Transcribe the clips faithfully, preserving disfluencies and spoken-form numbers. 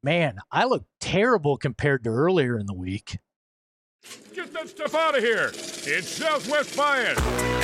Man, I look terrible compared to earlier in the week. Get that stuff out of here. It's Southwest Bias.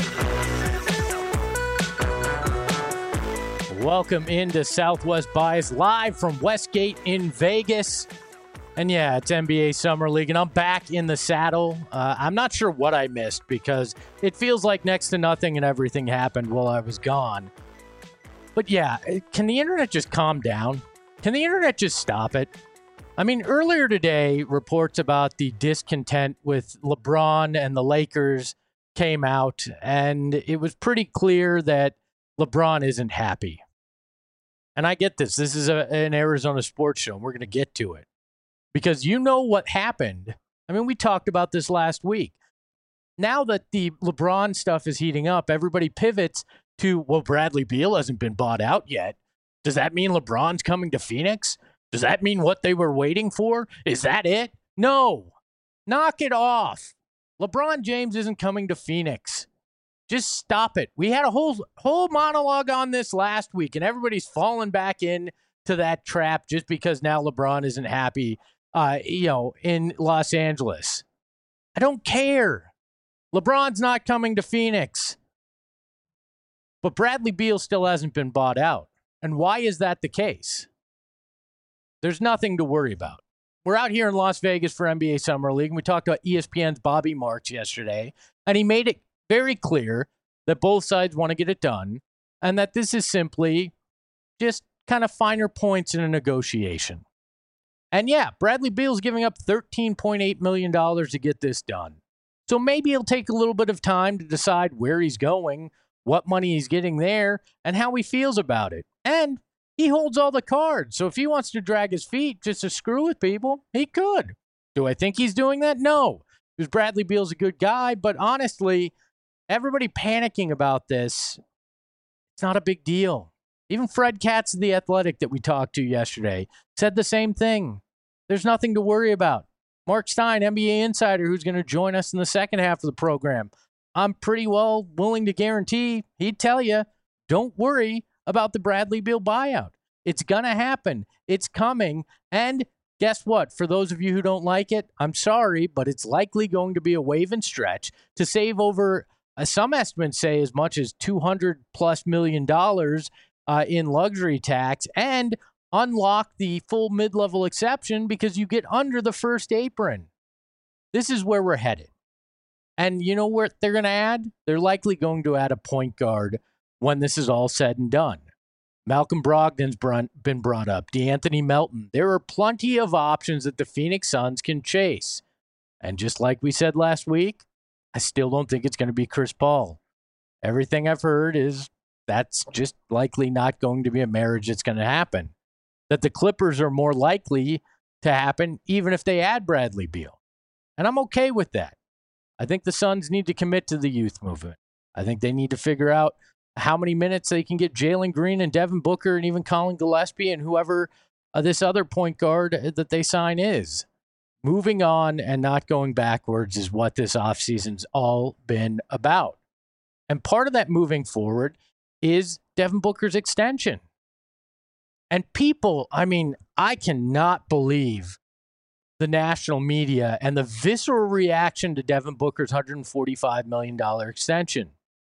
Welcome into Southwest Bias, live from Westgate in Vegas. And yeah, it's N B A Summer League, and I'm back in the saddle. Uh, I'm not sure what I missed because it feels like next to nothing and everything happened while I was gone. But yeah, can the internet just calm down? Can the internet just stop it? I mean, earlier today, reports about the discontent with LeBron and the Lakers came out, and it was pretty clear that LeBron isn't happy. And I get this. This is a, an Arizona sports show, and we're going to get to it. Because you know what happened. I mean, we talked about this last week. Now that the LeBron stuff is heating up, everybody pivots to, well, Bradley Beal hasn't been bought out yet. Does that mean LeBron's coming to Phoenix? Does that mean what they were waiting for? Is that it? No. Knock it off. LeBron James isn't coming to Phoenix. Just stop it. We had a whole whole monologue on this last week, and everybody's fallen back in to that trap just because now LeBron isn't happy, uh, you know, in Los Angeles. I don't care. LeBron's not coming to Phoenix. But Bradley Beal still hasn't been bought out. And why is that the case? There's nothing to worry about. We're out here in Las Vegas for N B A Summer League, and we talked about E S P N's Bobby Marks yesterday, and he made it very clear that both sides want to get it done, and that this is simply just kind of finer points in a negotiation. And yeah, Bradley Beal's giving up thirteen point eight million dollars to get this done. So maybe it'll take a little bit of time to decide where he's going, what money he's getting there, and how he feels about it. And he holds all the cards. So if he wants to drag his feet just to screw with people, he could. Do I think he's doing that? No. Because Bradley Beal's a good guy. But honestly, everybody panicking about this, it's not a big deal. Even Fred Katz of The Athletic that we talked to yesterday said the same thing. There's nothing to worry about. Mark Stein, N B A insider, who's going to join us in the second half of the program, I'm pretty well willing to guarantee he'd tell you, don't worry about the Bradley Beal buyout. It's going to happen. It's coming. And guess what? For those of you who don't like it, I'm sorry, but it's likely going to be a wave and stretch to save over, uh, some estimates say, as much as two hundred plus million dollars uh, in luxury tax and unlock the full mid-level exception because you get under the first apron. This is where we're headed. And you know what they're going to add? They're likely going to add a point guard when this is all said and done. Malcolm Brogdon's been brought up. DeAnthony Melton. There are plenty of options that the Phoenix Suns can chase. And just like we said last week, I still don't think it's going to be Chris Paul. Everything I've heard is that's just likely not going to be a marriage that's going to happen. That the Clippers are more likely to happen even if they add Bradley Beal. And I'm okay with that. I think the Suns need to commit to the youth movement. I think they need to figure out how many minutes they can get Jalen Green and Devin Booker and even Colin Gillespie and whoever uh, this other point guard that they sign is. Moving on and not going backwards is what this offseason's all been about. And part of that moving forward is Devin Booker's extension. And people, I mean, I cannot believe the national media and the visceral reaction to Devin Booker's one hundred forty-five million dollars extension.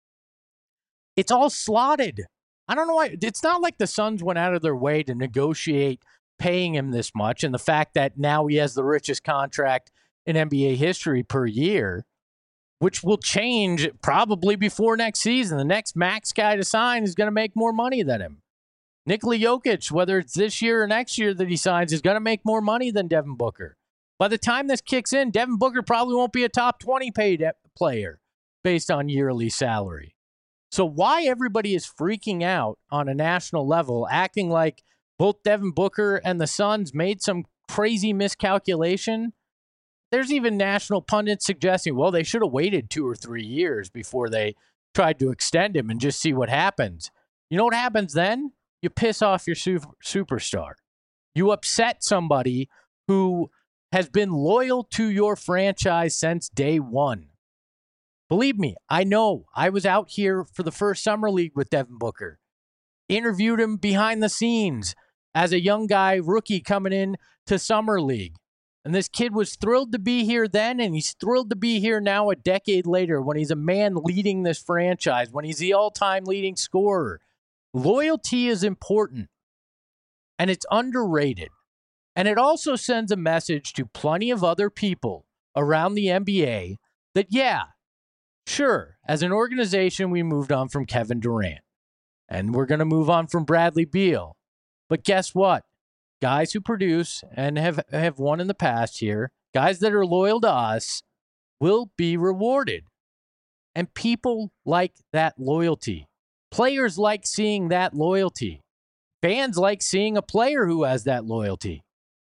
It's all slotted. I don't know why. It's not like the Suns went out of their way to negotiate paying him this much. And the fact that now he has the richest contract in N B A history per year, which will change probably before next season. The next max guy to sign is going to make more money than him. Nikola Jokic, whether it's this year or next year that he signs, is going to make more money than Devin Booker. By the time this kicks in, Devin Booker probably won't be a top twenty paid player based on yearly salary. So why everybody is freaking out on a national level, acting like both Devin Booker and the Suns made some crazy miscalculation? There's even national pundits suggesting, well, they should have waited two or three years before they tried to extend him and just see what happens. You know what happens then? You piss off your super, superstar. You upset somebody who has been loyal to your franchise since day one. Believe me, I know. I was out here for the first summer league with Devin Booker. Interviewed him behind the scenes. as a young guy, rookie coming in to Summer League. And this kid was thrilled to be here then, and he's thrilled to be here now a decade later when he's a man leading this franchise, when he's the all-time leading scorer. Loyalty is important, and it's underrated. And it also sends a message to plenty of other people around the N B A that, yeah, sure, as an organization, we moved on from Kevin Durant, and we're going to move on from Bradley Beal. But guess what? Guys who produce and have, have won in the past here, guys that are loyal to us, will be rewarded. And people like that loyalty. Players like seeing that loyalty. Fans like seeing a player who has that loyalty.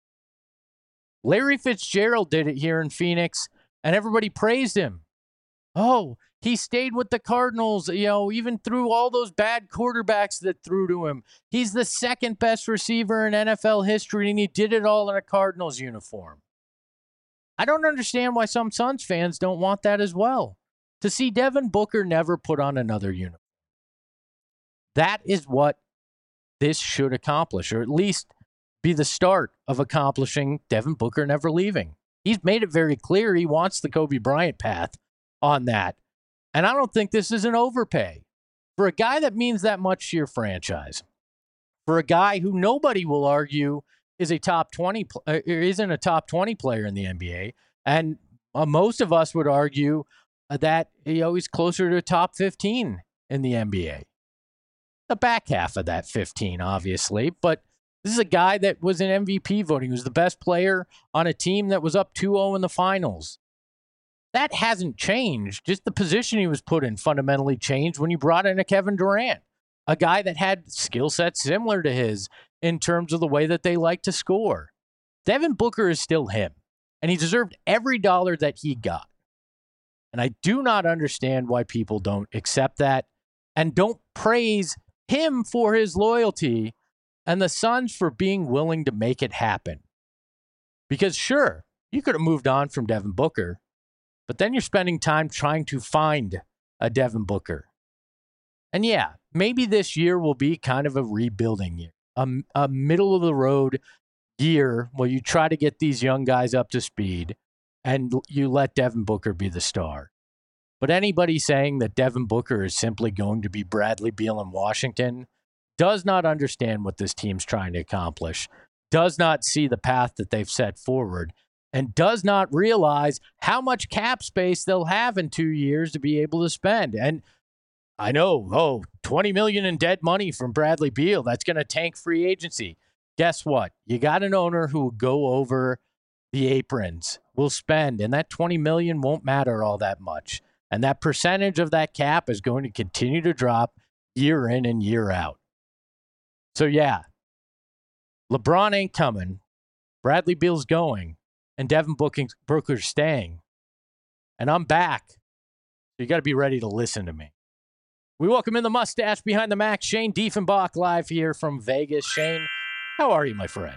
Larry Fitzgerald did it here in Phoenix, and everybody praised him. Oh, he stayed with the Cardinals, you know, even through all those bad quarterbacks that threw to him. He's the second best receiver in N F L history, and he did it all in a Cardinals uniform. I don't understand why some Suns fans don't want that as well. To see Devin Booker never put on another uniform. That is what this should accomplish, or at least be the start of accomplishing Devin Booker never leaving. He's made it very clear he wants the Kobe Bryant path on that. And I don't think this is an overpay. For a guy that means that much to your franchise, for a guy who nobody will argue is a top twenty, uh, isn't a top twenty player in the N B A, and uh, most of us would argue uh, that you know, he's closer to top fifteen in the N B A. The back half of that fifteen, obviously, but this is a guy that was in M V P voting. He was the best player on a team that was up two oh in the finals. That hasn't changed. Just the position he was put in fundamentally changed when you brought in a Kevin Durant, a guy that had skill sets similar to his in terms of the way that they like to score. Devin Booker is still him, and he deserved every dollar that he got. And I do not understand why people don't accept that and don't praise him for his loyalty and the Suns for being willing to make it happen. Because sure, you could have moved on from Devin Booker, but then you're spending time trying to find a Devin Booker. And yeah, maybe this year will be kind of a rebuilding year, a, a middle-of-the-road year where you try to get these young guys up to speed and you let Devin Booker be the star. But anybody saying that Devin Booker is simply going to be Bradley Beal in Washington does not understand what this team's trying to accomplish, does not see the path that they've set forward, and does not realize how much cap space they'll have in two years to be able to spend. And I know, oh, twenty million dollars in dead money from Bradley Beal, that's going to tank free agency. Guess what? You got an owner who will go over the aprons, will spend, and that twenty million dollars won't matter all that much. And that percentage of that cap is going to continue to drop year in and year out. So yeah, LeBron ain't coming. Bradley Beal's going. And Devin Booker's staying. And I'm back. So you got to be ready to listen to me. We welcome in the mustache behind the Mac, Shane Diefenbach, live here from Vegas. Shane, how are you, my friend?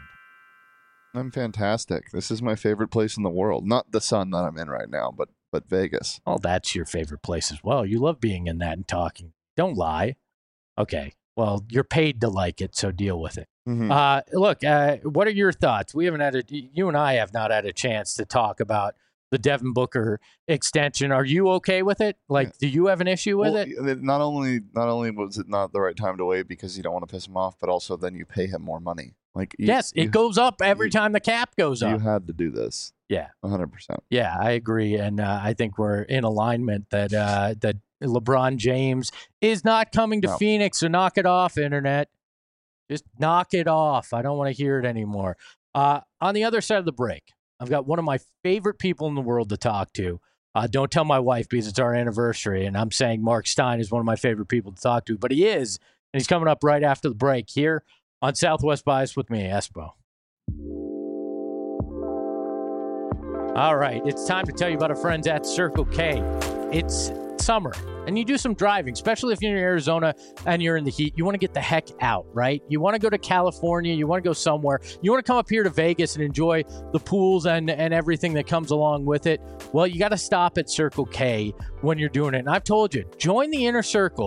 I'm fantastic. This is my favorite place in the world. Not the sun that I'm in right now, but but Vegas. Oh, that's your favorite place as well. You love being in that and talking. Don't lie. Okay. Well, you're paid to like it, so deal with it. Mm-hmm. Uh, look, uh, what are your thoughts? We haven't had a, you and I have not had a chance to talk about the Devin Booker extension. Are you okay with it? Like, yeah. Do you have an issue with well, it? Not only, not only was it not the right time to wait because you don't want to piss him off, but also then you pay him more money. Like, you, yes, it you, goes up every you, time the cap goes up. You had to do this. Yeah, one hundred percent. Yeah, I agree, and uh, I think we're in alignment that uh, that LeBron James is not coming to no. Phoenix, so knock it off, internet. Just knock it off. I don't want to hear it anymore. Uh, on the other side of the break, I've got one of my favorite people in the world to talk to. Uh, don't tell my wife because it's our anniversary, and I'm saying Mark Stein is one of my favorite people to talk to, but he is, and he's coming up right after the break here on Southwest Bias with me, Espo. All right, it's time to tell you about our friends at Circle K. It's summer, and you do some driving, especially if you're in Arizona and you're in the heat. You want to get the heck out, right? You want to go to California. You want to go somewhere. You want to come up here to Vegas and enjoy the pools and, and everything that comes along with it. Well, you got to stop at Circle K when you're doing it. And I've told you, join the inner circle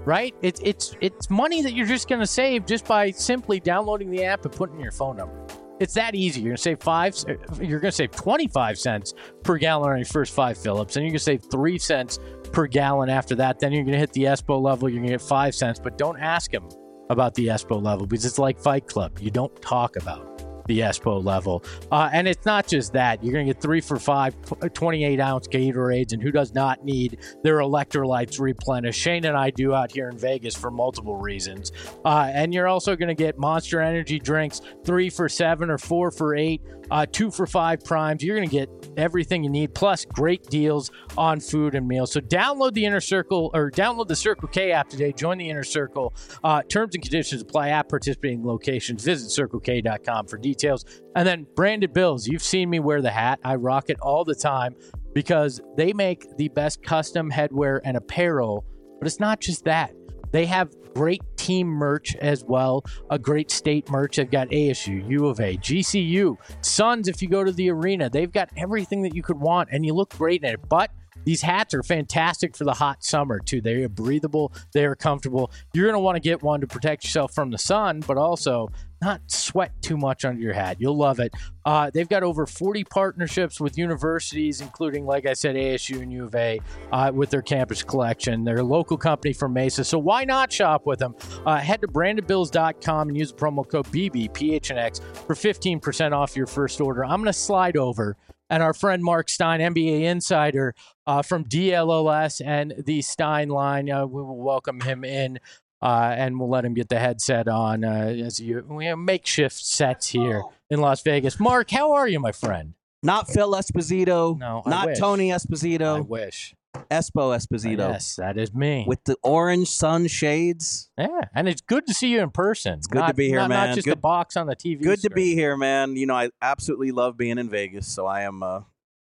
right? It's it's it's money that you're just going to save just by simply downloading the app and putting in your phone number. It's that easy. You're going to save five. You're going to save twenty-five cents per gallon on your first five Phillips, and you're going to save three cents per gallon after that. Then you're going to hit the E S P O level. You're going to get five cents, but don't ask them about the E S P O level because it's like Fight Club. You don't talk about the E S P O level. Uh, and it's not just that. You're going to get three for five twenty-eight ounce Gatorades, and who does not need their electrolytes replenished? Shane and I do out here in Vegas for multiple reasons. Uh, and you're also going to get Monster Energy drinks, three for seven or four for eight, uh, two for five primes. You're going to get everything you need, plus great deals on food and meals. So download the Inner Circle, or download the Circle K app today. Join the Inner Circle. Uh, terms and conditions apply at participating locations. Visit circle k dot com for details. Details. And then branded bills. You've seen me wear the hat. I rock it all the time because they make the best custom headwear and apparel. But it's not just that. They have great team merch as well. A great state merch. They've got A S U, U of A, G C U, Suns if you go to the arena. They've got everything that you could want, and you look great in it. But these hats are fantastic for the hot summer, too. They are breathable. They are comfortable. You're going to want to get one to protect yourself from the sun, but also not sweat too much under your hat. You'll love it. Uh, they've got over forty partnerships with universities, including, like I said, A S U and U of A, uh, with their campus collection. They're a local company from Mesa, so why not shop with them? Uh, head to branded bills dot com and use the promo code B B P H N X for fifteen percent off your first order. I'm going to slide over. And our friend Mark Stein, N B A insider uh, from D L O S and the Stein line, uh, we will welcome him in uh, and we'll let him get the headset on uh, as you, we have makeshift sets here in Las Vegas. Mark, how are you, my friend? Not Phil Esposito. No, I Not wish. Tony Esposito. I wish. Espo Esposito. Yes, that is me. With the orange sun shades. Yeah, and it's good to see you in person. It's good not, to be here, not, man. Not just good, a box on the T V Good screen. to be here, man. You know, I absolutely love being in Vegas, so I am uh,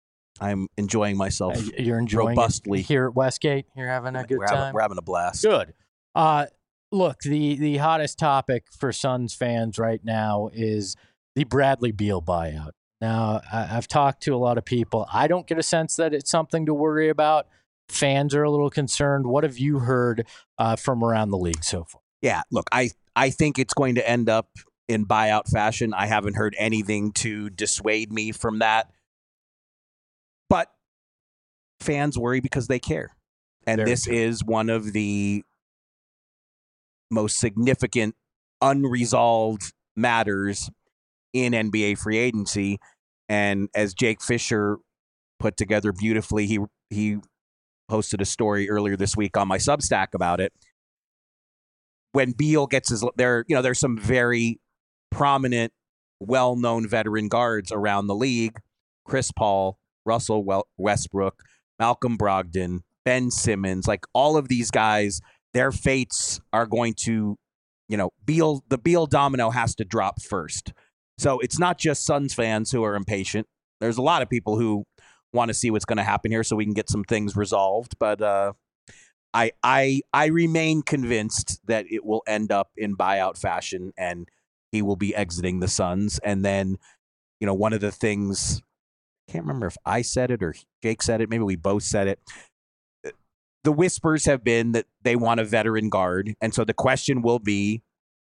I'm enjoying myself. Uh, you're enjoying robustly it here at Westgate. You're having a good we're time. Having, we're having a blast. Good. Uh, look, the the hottest topic for Suns fans right now is the Bradley Beal buyout. Now, I, I've talked to a lot of people. I don't get a sense that it's something to worry about. Fans are a little concerned. What have you heard uh, from around the league so far? Yeah, look, I I think it's going to end up in buyout fashion. I haven't heard anything to dissuade me from that. But fans worry because they care. And Very this true. is one of the most significant unresolved matters in N B A free agency. And as Jake Fisher put together beautifully, he he posted a story earlier this week on my Substack about it. When Beal gets his, there, you know, there's some very prominent, well-known veteran guards around the league: Chris Paul, Russell Westbrook, Malcolm Brogdon, Ben Simmons. Like all of these guys, their fates are going to, you know, Beal. The Beal domino has to drop first. So it's not just Suns fans who are impatient. There's a lot of people who want to see what's going to happen here so we can get some things resolved. But uh, I I I remain convinced that it will end up in buyout fashion and he will be exiting the Suns. And then, you know, one of the things, I can't remember if I said it or Jake said it, maybe we both said it. The whispers have been that they want a veteran guard. And so the question will be,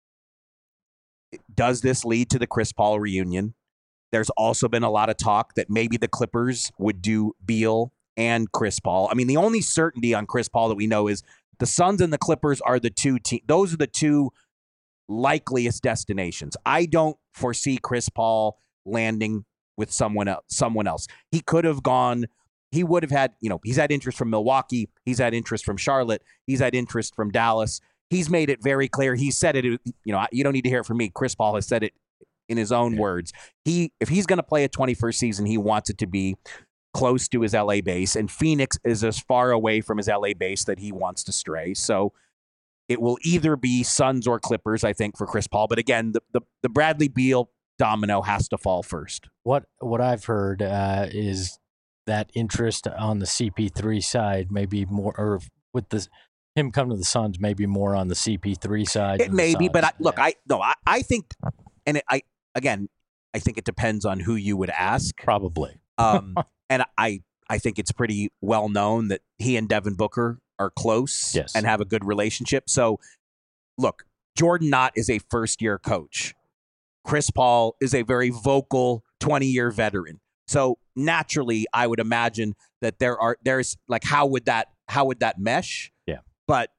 does this lead to the Chris Paul reunion? There's also been a lot of talk that maybe the Clippers would do Beal and Chris Paul. I mean, the only certainty on Chris Paul that we know is the Suns and the Clippers are the two teams. Those are the two likeliest destinations. I don't foresee Chris Paul landing with someone else. Someone else. He could have gone. He would have had, you know, he's had interest from Milwaukee. He's had interest from Charlotte. He's had interest from Dallas. He's made it very clear. He said it, you know, you don't need to hear it from me. Chris Paul has said it in his own yeah. words. He, if he's going to play a twenty-first season, he wants it to be close to his L A base, and Phoenix is as far away from his L A base that he wants to stray. So it will either be Suns or Clippers, I think, for Chris Paul. But again, the the, the Bradley Beal domino has to fall first. What what I've heard uh, is that interest on the C P three side, maybe more, or with the him come to the Suns, maybe more on the C P three side. It may be, but I, yeah. look, I no, I, I think, and it, I again, I think it depends on who you would ask. Probably. Um, and I, I think it's pretty well known that he and Devin Booker are close Yes. and have a good relationship. So, look, Jordan Knott is a first-year coach. Chris Paul is a very vocal twenty-year veteran. So naturally, I would imagine that there are there's like how would that how would that mesh? Yeah. But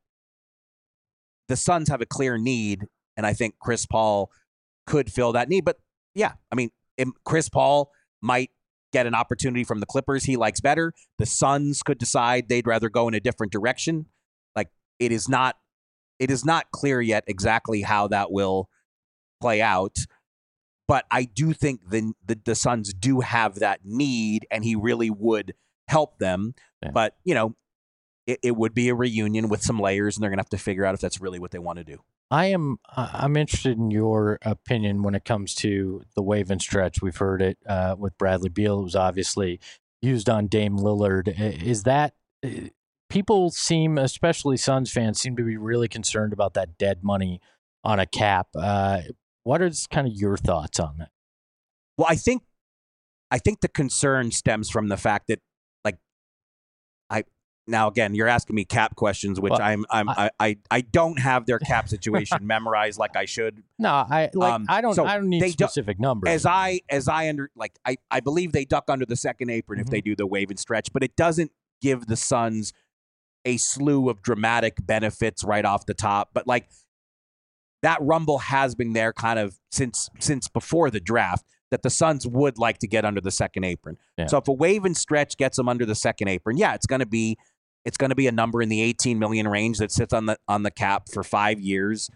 the Suns have a clear need, and I think Chris Paul could fill that need. But yeah, I mean, Chris Paul might get an opportunity from the Clippers he likes better. The Suns could decide they'd rather go in a different direction. Like it is not it is not clear yet exactly how that will play out. But I do think the, the the Suns do have that need, and he really would help them. Yeah. But, you know, it, it would be a reunion with some layers, and they're going to have to figure out if that's really what they want to do. I am I'm interested in your opinion when it comes to the wave and stretch. We've heard it uh, with Bradley Beal. It was obviously used on Dame Lillard. Is that people seem, especially Suns fans, seem to be really concerned about that dead money on a cap. Uh, what is kind of your thoughts on that? Well, I think I think the concern stems from the fact that, like, I now again you're asking me cap questions, which well, I'm I'm I, I I don't have their cap situation memorized like I should. No, I like um, I don't so I don't need specific du- numbers. As I as I under like I, I believe they duck under the second apron mm-hmm. if they do the wave and stretch, but it doesn't give the Suns a slew of dramatic benefits right off the top. But like that rumble has been there kind of since since before the draft that the Suns would like to get under the second apron. Yeah. So if a wave and stretch gets them under the second apron, yeah, it's going to be it's going to be a number in the eighteen million range that sits on the on the cap for five years.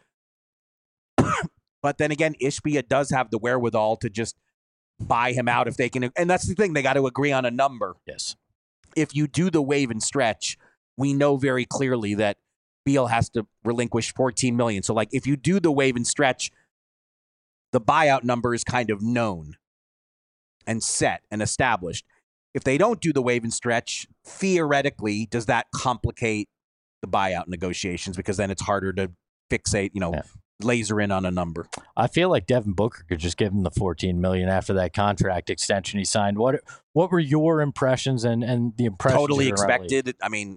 But then again, Ishbia does have the wherewithal to just buy him out if they can, and that's the thing, they got to agree on a number. Yes. If you do the wave and stretch, we know very clearly that Beal has to relinquish fourteen million dollars. So, like, if you do the wave and stretch, the buyout number is kind of known and set and established. If they don't do the wave and stretch, theoretically, does that complicate the buyout negotiations? Because then it's harder to fixate, you know, yeah. laser in on a number. I feel like Devin Booker could just give him the fourteen million dollars after that contract extension he signed. What What were your impressions and, and the impressions? Totally expected. I mean,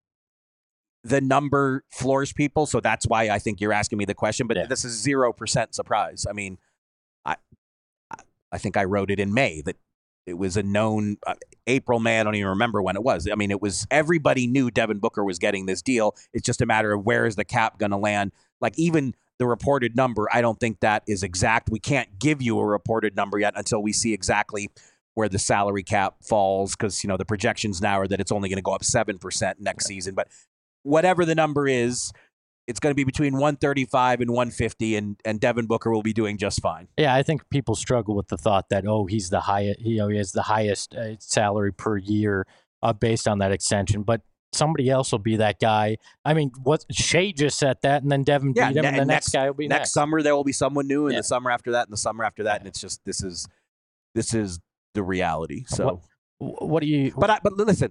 the number floors people, so that's why I think you're asking me the question. But yeah. this is zero percent surprise. I mean, I I think I wrote it in May that it was a known uh, April, May. I don't even remember when it was. I mean, it was everybody knew Devin Booker was getting this deal. It's just a matter of where is the cap going to land. Like even the reported number, I don't think that is exact. We can't give you a reported number yet until we see exactly where the salary cap falls, because you know the projections now are that it's only going to go up seven percent next yeah. season, but whatever the number is, it's going to be between one thirty-five and one fifty, and, and Devin Booker will be doing just fine. Yeah, I think people struggle with the thought that, oh, he's the highest, you know, he has the highest uh, salary per year uh, based on that extension. But somebody else will be that guy. I mean, what Shea just said that, and then Devin yeah, beat him, ne- and the next, next guy will be next. Next summer, there will be someone new, and yeah. the summer after that, and the summer after that, yeah. and it's just this is this is the reality. So, what, what do you? But I, but listen.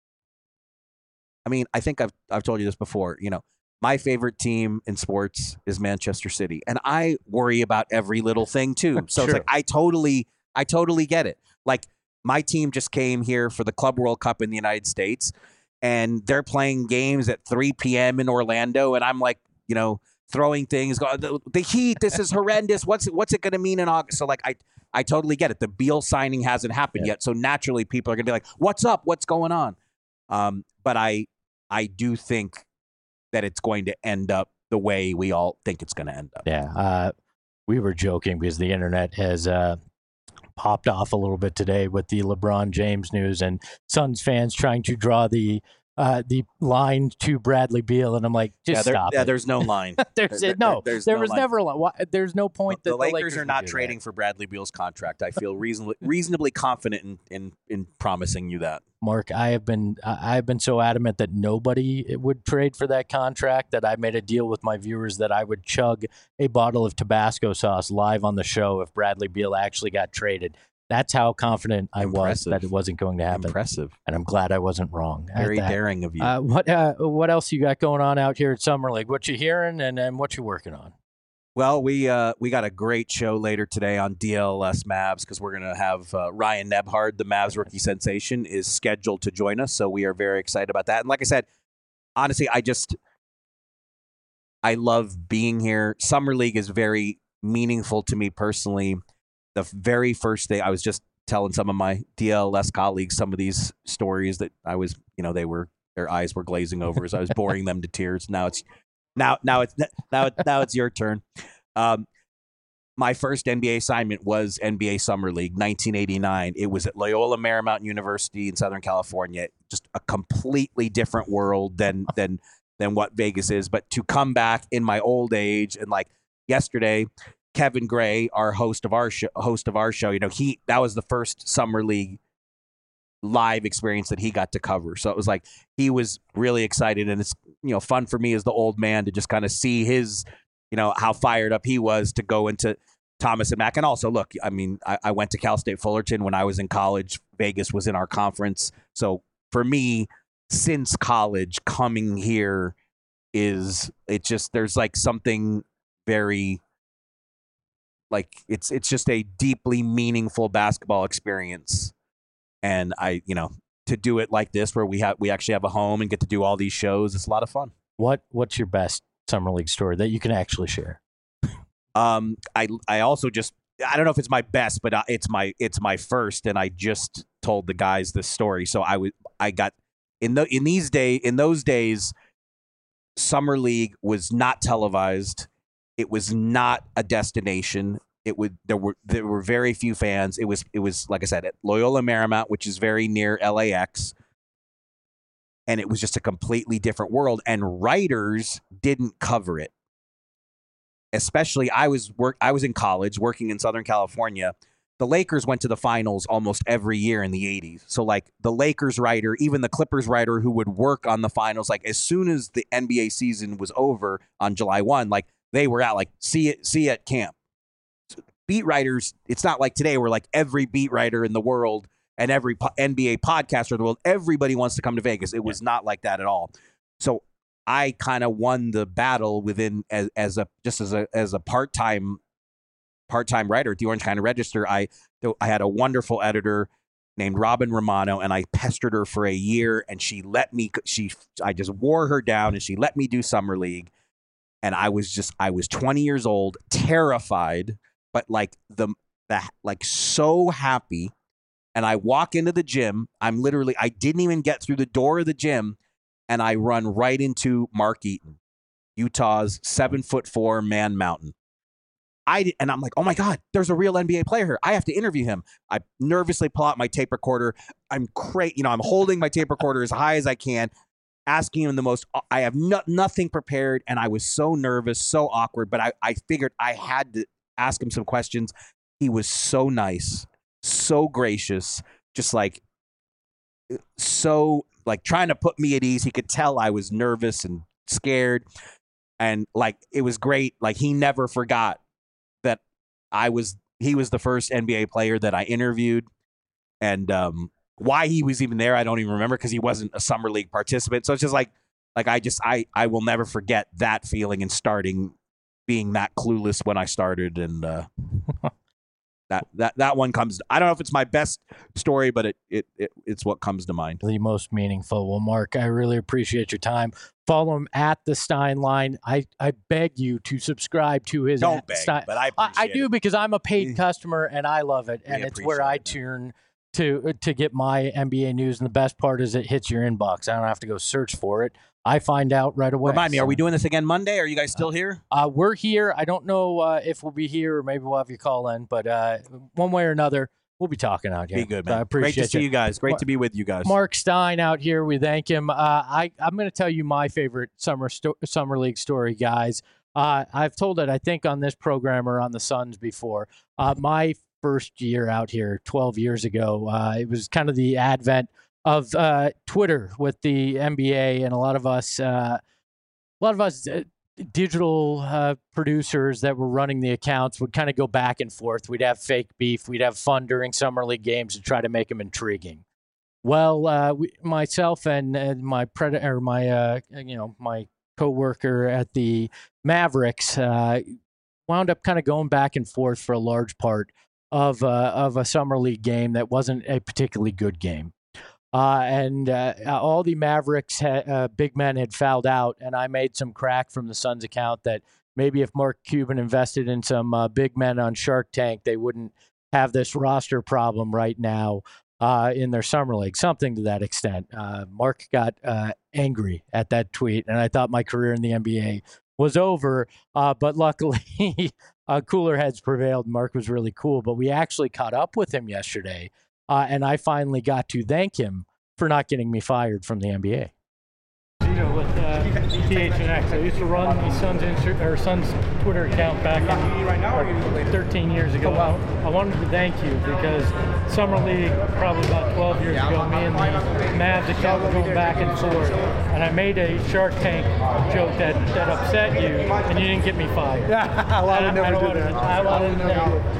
I mean, I think I've I've told you this before. You know, my favorite team in sports is Manchester City, and I worry about every little thing too. So sure. it's like I totally, I totally get it. Like my team just came here for the Club World Cup in the United States, and they're playing games at three p.m. in Orlando, and I'm like, you know, throwing things. The, the heat. This is horrendous. What's what's it going to mean in August? So like I. I totally get it. The Beal signing hasn't happened yeah. yet, so naturally people are going to be like, "What's up? What's going on?" Um, but I, I do think that it's going to end up the way we all think it's going to end up. Yeah, uh, we were joking because the internet has uh, popped off a little bit today with the LeBron James news and Suns fans trying to draw the uh, the line to Bradley Beal, and I'm like, just yeah, there, stop yeah, it. there's no line. there's there, no, there's there no was line. never a line. Why, there's no point the, that the the Lakers, Lakers are not do trading that. for Bradley Beal's contract. I feel reasonably reasonably confident in, in in promising you that. Mark, I have been I have been so adamant that nobody would trade for that contract that I made a deal with my viewers that I would chug a bottle of Tabasco sauce live on the show if Bradley Beal actually got traded. That's how confident I Impressive. was that it wasn't going to happen. Impressive. And I'm glad I wasn't wrong. Very daring of you. Uh, what uh, what else you got going on out here at Summer League? What you hearing and, and what you working on? Well, we uh, we got a great show later today on D L S Mavs because we're going to have uh, Ryan Nebhard, the Mavs rookie sensation, is scheduled to join us. So we are very excited about that. And like I said, honestly, I just I love being here. Summer League is very meaningful to me personally. The very first day, I was just telling some of my D L S colleagues some of these stories that I was, you know, they were their eyes were glazing over as I was boring them to tears. Now it's now now it's now it, now it's your turn. Um, my first N B A assignment was N B A Summer League, nineteen eighty-nine. It was at Loyola Marymount University in Southern California. Just a completely different world than than than what Vegas is. But to come back in my old age and like yesterday, Kevin Gray, our host of our show, host of our show, you know, he that was the first Summer League live experience that he got to cover. So it was like he was really excited, and it's, you know, fun for me as the old man to just kind of see his, you know, how fired up he was to go into Thomas and Mack. And also, look, I mean, I, I went to Cal State Fullerton when I was in college. Vegas was in our conference. So for me, since college, coming here is, it just, there's like something very, like, it's it's just a deeply meaningful basketball experience. And I, you know, to do it like this, where we have we actually have a home and get to do all these shows, it's a lot of fun. What What's your best Summer League story that you can actually share? Um, I I also just, I don't know if it's my best, but it's my it's my first, and I just told the guys this story. So I was I got in the in these day in those days, Summer League was not televised. It was not a destination. It would there were there were very few fans. It was it was like I said at Loyola Marymount, which is very near L A X, and it was just a completely different world. And writers didn't cover it. Especially, I was work I was in college working in Southern California. The Lakers went to the finals almost every year in the eighties. So like the Lakers writer, even the Clippers writer who would work on the finals, like as soon as the N B A season was over on July first, like they were out, like see it see you at camp. Beat writers, it's not like today where like every beat writer in the world and every po- N B A podcaster in the world, everybody wants to come to Vegas. It was not like that at all. So I kind of won the battle within as, as a just as a as a part-time part-time writer at the Orange County Register. I I had a wonderful editor named Robin Romano, and I pestered her for a year, and she let me she I just wore her down, and she let me do Summer League. And I was just I was twenty years old, terrified, but like the, the like so happy. And I walk into the gym. I'm literally I didn't even get through the door of the gym, and I run right into Mark Eaton, Utah's seven foot four man mountain. I and I'm like, oh my God, there's a real N B A player here. I have to interview him. I nervously pull out my tape recorder. I'm cra- you know, I'm holding my tape recorder as high as I can, asking him the most. I have no, nothing prepared, and I was so nervous, so awkward. But I, I figured I had to ask him some questions. He was so nice, so gracious, just like so like trying to put me at ease. He could tell I was nervous and scared, and like it was great. Like he never forgot that I was he was the first N B A player that I interviewed, and um, why he was even there, I don't even remember because he wasn't a Summer League participant. So it's just like like I just I I will never forget that feeling and starting being that clueless when I started, and uh, that that that one comes. I don't know if it's my best story, but it, it it it's what comes to mind. The most meaningful. Well, Mark, I really appreciate your time. Follow him at the Stein Line. I, I beg you to subscribe to his. Don't beg, Stein. but I I, I do it. because I'm a paid customer and I love it, We and it's where I appreciate it. turn to to get my N B A news. And the best part is it hits your inbox. I don't have to go search for it. I find out right away. Remind me, So, are we doing this again Monday? Are you guys still here? Uh, we're here. I don't know uh, if we'll be here or maybe we'll have you call in, but uh, one way or another, we'll be talking out here. Be good, But I man. appreciate Great to see you guys. Great Mar- to be with you guys. Mark Stein out here. We thank him. Uh, I, I'm going to tell you my favorite summer sto- summer league story, guys. Uh, I've told it, I think, on this program or on the Suns before. Uh, my first year out here, twelve years ago, uh, it was kind of the advent of uh, Twitter with the N B A, and a lot of us, uh, a lot of us. Uh, digital uh, producers that were running the accounts would kind of go back and forth. We'd have fake beef. We'd have fun during summer league games to try to make them intriguing. Well, uh, we, myself and, and my pred- or my uh, you know my coworker at the Mavericks uh, wound up kind of going back and forth for a large part of uh, of a summer league game that wasn't a particularly good game. Uh, and uh, all the Mavericks ha- uh, big men had fouled out, and I made some crack from the Suns account that maybe if Mark Cuban invested in some uh, big men on Shark Tank, they wouldn't have this roster problem right now uh, in their summer league, something to that extent. Uh, Mark got uh, angry at that tweet, and I thought my career in the N B A was over, uh, but luckily uh, cooler heads prevailed. Mark was really cool, but we actually caught up with him yesterday. Uh, and I finally got to thank him for not getting me fired from the N B A. You know, with uh, P H N X, I used to run the Suns Insta- or Suns Twitter account back in like, thirteen years ago. I, I wanted to thank you because Summer League, probably about twelve years ago, me and the Mavs account were going back and forth, and I made a Shark Tank joke that, that upset you, and you didn't get me fired. Yeah, I would never do that. I wanted to thank you.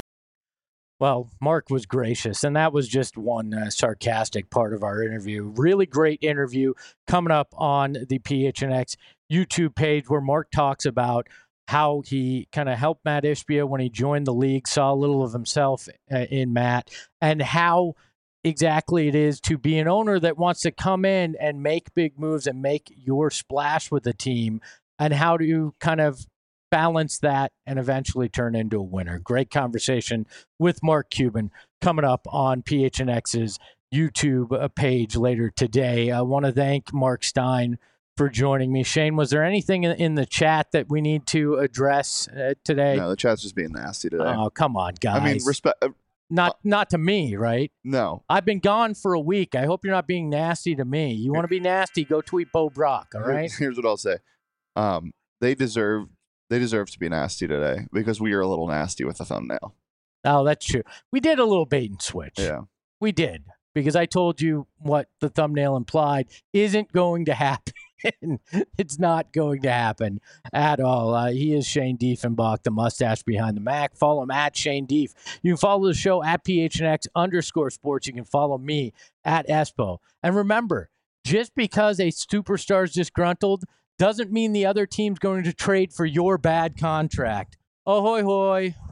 Well, Mark was gracious, and that was just one uh, sarcastic part of our interview. Really great interview coming up on the P H N X YouTube page where Mark talks about how he kind of helped Matt Ishbia when he joined the league, saw a little of himself uh, in Matt, and how exactly it is to be an owner that wants to come in and make big moves and make your splash with the team, and how do you kind of balance that and eventually turn into a winner. Great conversation with Mark Cuban coming up on P H N X's YouTube page later today. I want to thank Mark Stein for joining me. Shane, was there anything in the chat that we need to address uh, today? No, the chat's just being nasty today. Oh, come on, guys. I mean, respect. Uh, not not to me, right? No. I've been gone for a week. I hope you're not being nasty to me. You want to be nasty, go tweet Bo Brock, all right? Here's what I'll say. Um, they deserve they deserve to be nasty today because we are a little nasty with the thumbnail. Oh, that's true. We did a little bait and switch. Yeah. We did, because I told you what the thumbnail implied isn't going to happen. It's not going to happen at all. Uh, he is Shane Diefenbach, the mustache behind the Mac. Follow him at Shane Dief. You can follow the show at P H N X underscore sports. You can follow me at Espo. And remember, just because a superstar is disgruntled doesn't mean the other team's going to trade for your bad contract. Ahoy hoy.